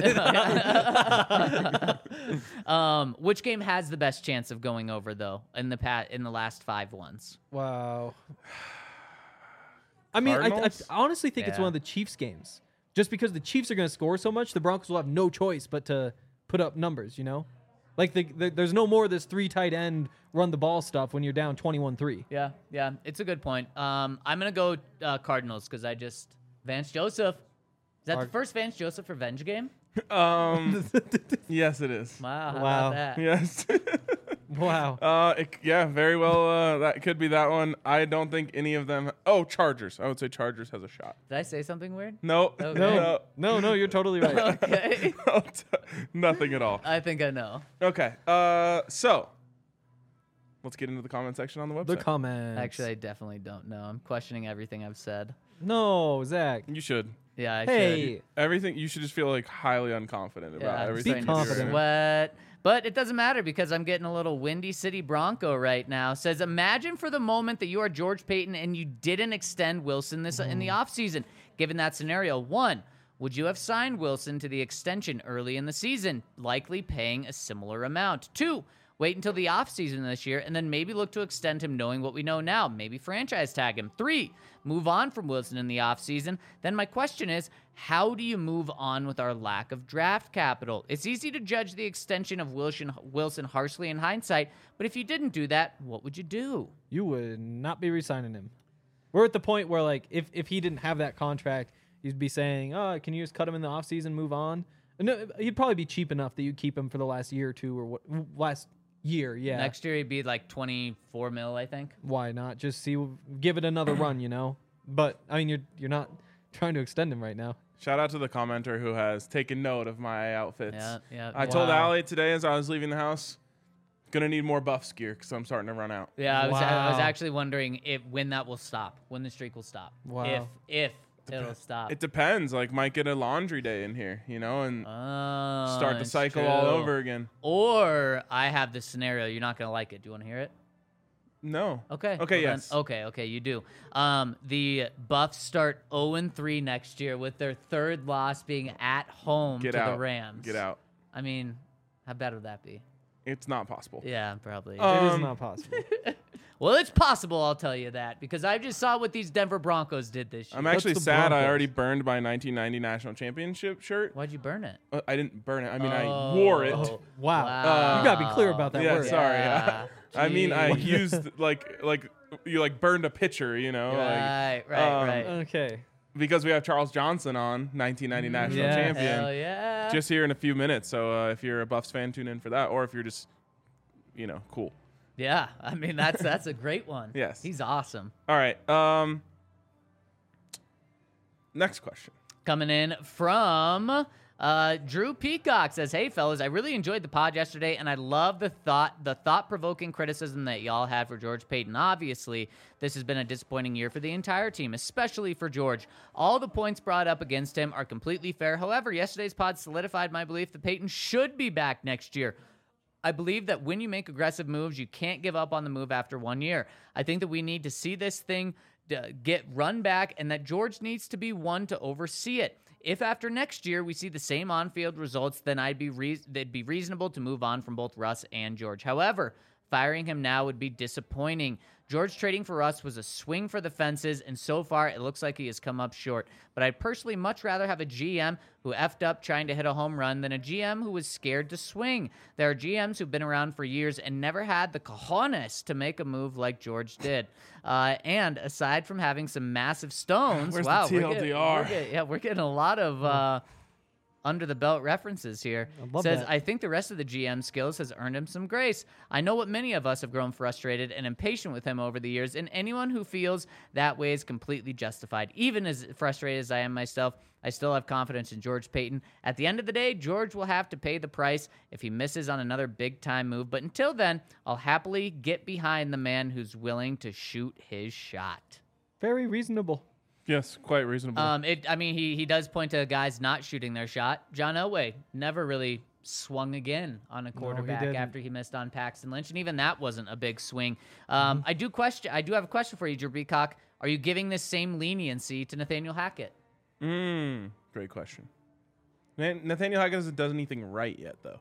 Which game has the best chance of going over though in the last 5 ones? Wow. I mean, I Cardinals? honestly think it's Yeah. one of the Chiefs games. Just because the Chiefs are going to score so much, the Broncos will have no choice but to put up numbers, you know? Like, there's no more of this 3 tight end run the ball stuff when you're down 21-3. Yeah, it's a good point. I'm gonna go Cardinals because Vance Joseph. Is that the first Vance Joseph revenge game? Yes, it is. Wow, how Wow. about that? Yes. Wow. Yeah, very well. That could be that one. I don't think any of them. Oh, Chargers. I would say Chargers has a shot. Did I say something weird? No. Okay. No, you're totally right. Okay. Nothing at all. I think I know. Okay. So let's get into the comment section on the website. The comments. Actually, I definitely don't know. I'm questioning everything I've said. No, Zach. You should. Yeah, I Hey. should. Everything. You should just feel like highly unconfident about Yeah, I'm everything. starting you do to right now. sweat. But it doesn't matter because I'm getting a little Windy City Bronco right now. Says, imagine for the moment that you are George Payton and you didn't extend Wilson in the offseason. Given that scenario, 1, would you have signed Wilson to the extension early in the season, likely paying a similar amount? 2, wait until the offseason this year and then maybe look to extend him knowing what we know now. Maybe franchise tag him. 3, move on from Wilson in the offseason. Then my question is, how do you move on with our lack of draft capital? It's easy to judge the extension of Wilson harshly in hindsight, but if you didn't do that, what would you do? You would not be re-signing him. We're at the point where, like, if he didn't have that contract, you'd be saying, oh, can you just cut him in the offseason, move on? No, he'd probably be cheap enough that you'd keep him for the last year or two or last year, yeah. Next year, he'd be like 24 mil, I think. Why not? Just give it another run, you know? But, I mean, you're not trying to extend him right now. Shout out to the commenter who has taken note of my outfits. Yeah. I told Allie today as I was leaving the house, gonna need more Buffs gear because I'm starting to run out. Yeah, I was Wow. actually wondering when that will stop, when the streak will stop. Wow. If it'll stop. It depends. Like, might get a laundry day in here, you know, and Oh, start the it's cycle all true. over again. Or I have this scenario. You're not going to like it. Do you want to hear it? No. Okay. Okay, well then- yes. Okay, you do. The Buffs start 0-3 next year with their 3rd loss being at home Get to out. the Rams. Get out. I mean, how bad would that be? It's not possible. Yeah, probably. It is not possible. Well, it's possible, I'll tell you that, because I just saw what these Denver Broncos did this year. I'm actually the sad I Broncos? already burned my 1990 national championship shirt. Why'd you burn it? I didn't burn it. I mean, I wore it. Oh, Wow. You got to be clear about that Yeah, word. sorry. Yeah. I mean, I Jeez. used like you burned a pitcher, you know, Right. Okay. because we have Charles Johnson on, 1990 national Yeah. champion. Hell yeah. Just here in a few minutes. So if you're a Buffs fan, tune in for that, or if you're just, cool. Yeah, I mean that's a great one. Yes. He's awesome. All right. Next question. Coming in from Drew Peacock says, "Hey fellas, I really enjoyed the pod yesterday, and I love the thought-provoking criticism that y'all had for George Payton. Obviously, this has been a disappointing year for the entire team, especially for George. All the points brought up against him are completely fair. However, yesterday's pod solidified my belief that Payton should be back next year. I believe that when you make aggressive moves, you can't give up on the move after 1 year. I think that we need to see this thing get run back, and that George needs to be one to oversee it. If after next year we see the same on-field results, then it'd be reasonable to move on from both Russ and George. However, firing him now would be disappointing. George trading for Russ was a swing for the fences, and so far it looks like he has come up short. But I'd personally much rather have a GM who effed up trying to hit a home run than a GM who was scared to swing. There are GMs who've been around for years and never had the cojones to make a move like George did. And aside from having some massive stones, Where's wow, the TLDR? we're getting a lot of under the belt references here. love Says, that. I think the rest of the GM skills has earned him some grace. I know what many of us have grown frustrated and impatient with him over the years, and anyone who feels that way is completely justified. Even as frustrated as I am myself, I still have confidence in George Payton. At the end of the day, George will have to pay the price if he misses on another big-time move, but until then, I'll happily get behind the man who's willing to shoot his shot. Very reasonable. Yes, quite reasonable. He does point to guys not shooting their shot. John Elway never really swung again on a quarterback didn't. after he missed on Paxton Lynch, and even that wasn't a big swing. I do have a question for you, Drew Beacock. Are you giving this same leniency to Nathaniel Hackett? Great question. Nathaniel Hackett hasn't done anything right yet, though.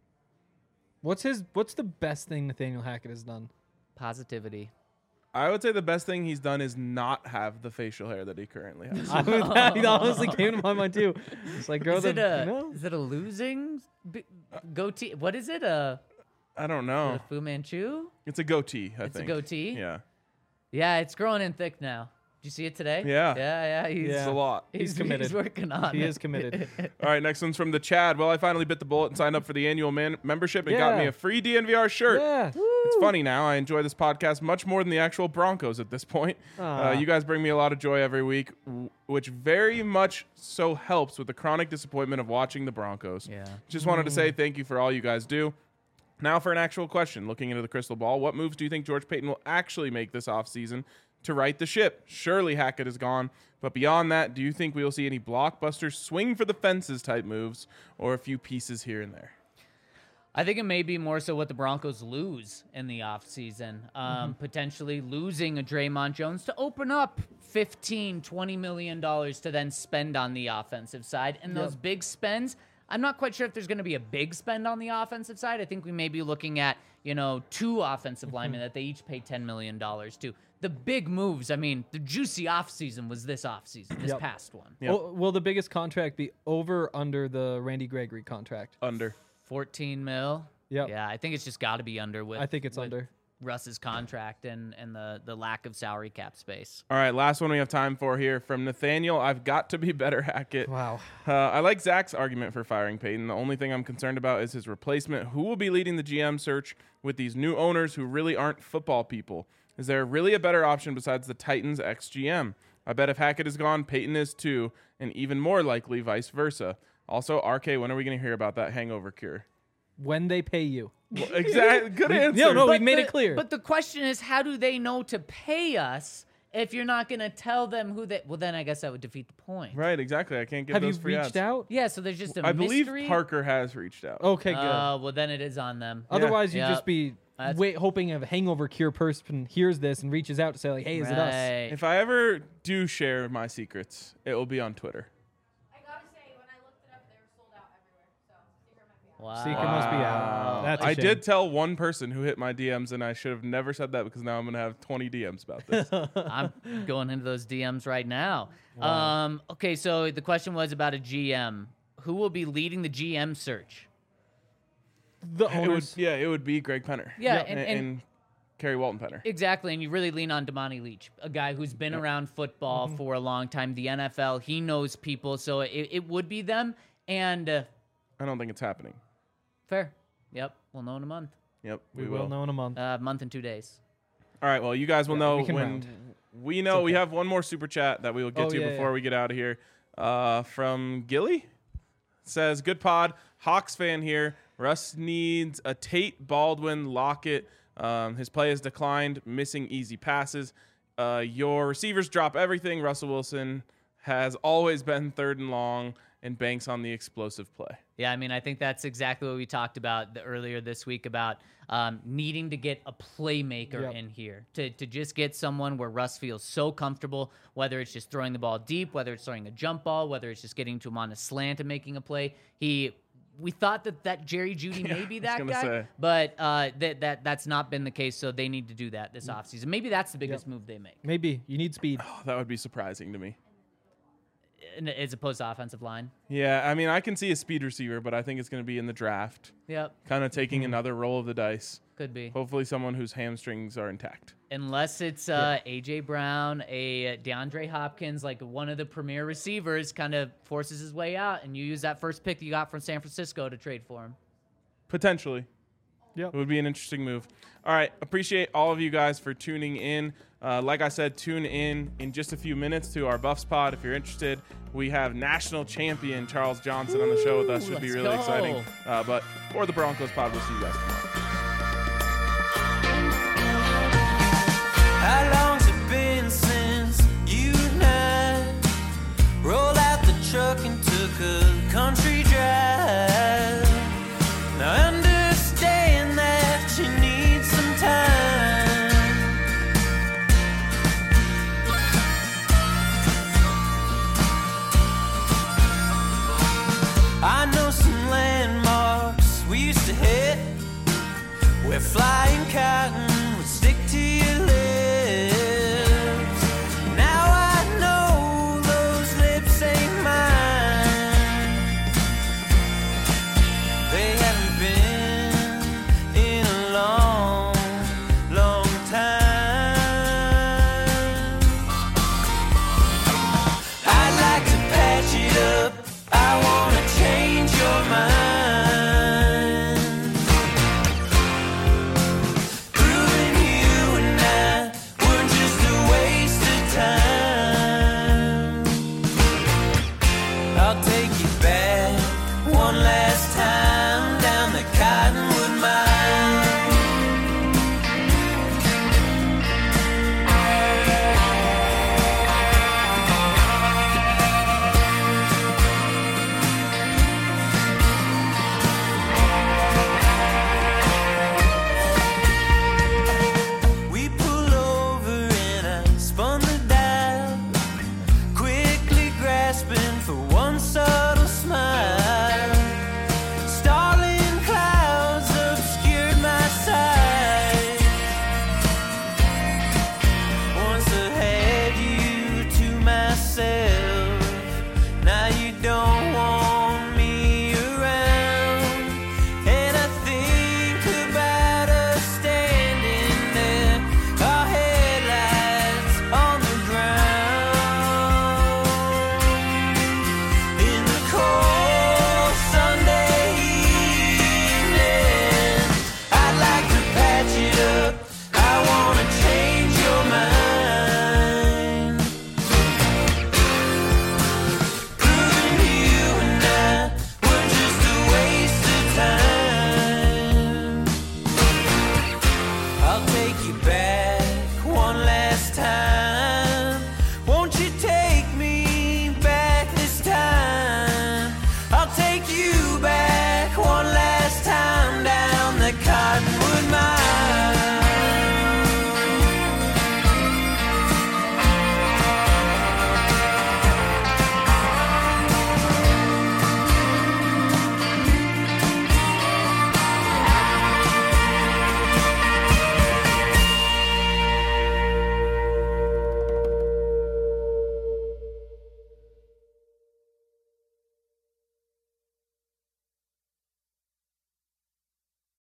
What's the best thing Nathaniel Hackett has done? Positivity. I would say the best thing he's done is not have the facial hair that he currently has. That honestly came to my mind too. It's like, Is it a losing goatee? What is it? I don't know. Fu Manchu? It's a goatee, I think. It's a goatee? Yeah. Yeah, it's growing in thick now. Did you see it today? Yeah. Yeah. It's a lot. He's committed. He's working on He it. is committed. All right, next one's from the Chad. Well, I finally bit the bullet and signed up for the annual membership and got me a free DNVR shirt. Yeah. It's funny now. I enjoy this podcast much more than the actual Broncos at this point. You guys bring me a lot of joy every week, which very much so helps with the chronic disappointment of watching the Broncos. Yeah. Just wanted to say thank you for all you guys do. Now for an actual question. Looking into the crystal ball, what moves do you think George Payton will actually make this offseason to right the ship? Surely Hackett is gone. But beyond that, do you think we will see any blockbuster swing for the fences type moves or a few pieces here and there? I think it may be more so what the Broncos lose in the offseason. Potentially losing a Draymond Jones to open up $15, $20 million to then spend on the offensive side. And those big spends, I'm not quite sure if there's going to be a big spend on the offensive side. I think we may be looking at, two offensive linemen that they each pay $10 million to. The big moves, the juicy offseason was this offseason, this past one. Yep. Will the biggest contract be over or under the Randy Gregory contract? Under. 14 mil. Yep. Yeah, I think it's just got to be under with. I think it's with under. Russ's contract and the lack of salary cap space. All right, last one we have time for here from Nathaniel. I've got to be better, Hackett. Wow. I like Zach's argument for firing Payton. The only thing I'm concerned about is his replacement. Who will be leading the GM search with these new owners who really aren't football people? Is there really a better option besides the Titans ex-GM? I bet if Hackett is gone, Payton is too, and even more likely vice versa. Also, RK, when are we going to hear about that hangover cure? When they pay you. Well, exactly. Good answer. No, But we've made it clear. But the question is, how do they know to pay us if you're not going to tell them who they... Well, then I guess that would defeat the point. Right, exactly. I can't give Have you those free reached ads. out? Yeah, so there's just a I believe mystery. Parker has reached out. Okay, good. Well, then it is on them. Otherwise, Yeah. you'd just be hoping a hangover cure person hears this and reaches out to say, like, hey, is it us? Right. If I ever do share my secrets, it will be on Twitter. I gotta say, when I looked it up, they were sold out everywhere. So Secret might be out. Wow. Secret must be out. That's a I shame. did tell one person who hit my DMs, and I should have never said that because now I'm going to have 20 DMs about this. I'm going into those DMs right now. Okay, so the question was about a GM. Who will be leading the GM search? The it would, owners. it would be Greg Penner. Yeah, and, and Kerry Walton Penner. exactly, and you really lean on Damani Leach, a guy who's been around football for a long time, the NFL. He knows people, so it would be them. And I don't think it's happening. fair. Yep, we'll know in a month. Yep, We will know in a month. Month and 2 days. All right, well, you guys will know we can when round. we know. We have one more super chat that we will get Oh, to yeah, before yeah. we get out of here. From Gilly. Says, good pod. Hawks fan here. Russ needs a Tate, Baldwin, Lockett. His play has declined, missing easy passes. Your receivers drop everything. Russell Wilson has always been third and long, and banks on the explosive play. Yeah, I mean, I think that's exactly what we talked about earlier this week about needing to get a playmaker in here to just get someone where Russ feels so comfortable, whether it's just throwing the ball deep, whether it's throwing a jump ball, whether it's just getting to him on a slant and making a play. We thought that Jerry Jeudy may be that guy, but that's not been the case, so they need to do that this offseason. Maybe that's the biggest move they make. Maybe. You need speed. Oh, that would be surprising to me. As opposed to offensive line. Yeah, I mean, I can see a speed receiver, but I think it's going to be in the draft. Yep. Kind of taking another roll of the dice. Could be. Hopefully someone whose hamstrings are intact. Unless it's A.J. Brown, a DeAndre Hopkins, like one of the premier receivers kind of forces his way out, and you use that first pick you got from San Francisco to trade for him. Potentially. Yep. It would be an interesting move. All right. Appreciate all of you guys for tuning in. Like I said, tune in just a few minutes to our Buffs pod if you're interested. We have national champion Charles Johnson on the show with us. Should be really exciting. But for the Broncos pod, we'll see you guys tomorrow. How long's it been since you and I rolled out the truck and took a country drive? Now I understand that you need some time. I know some landmarks we used to hit where fly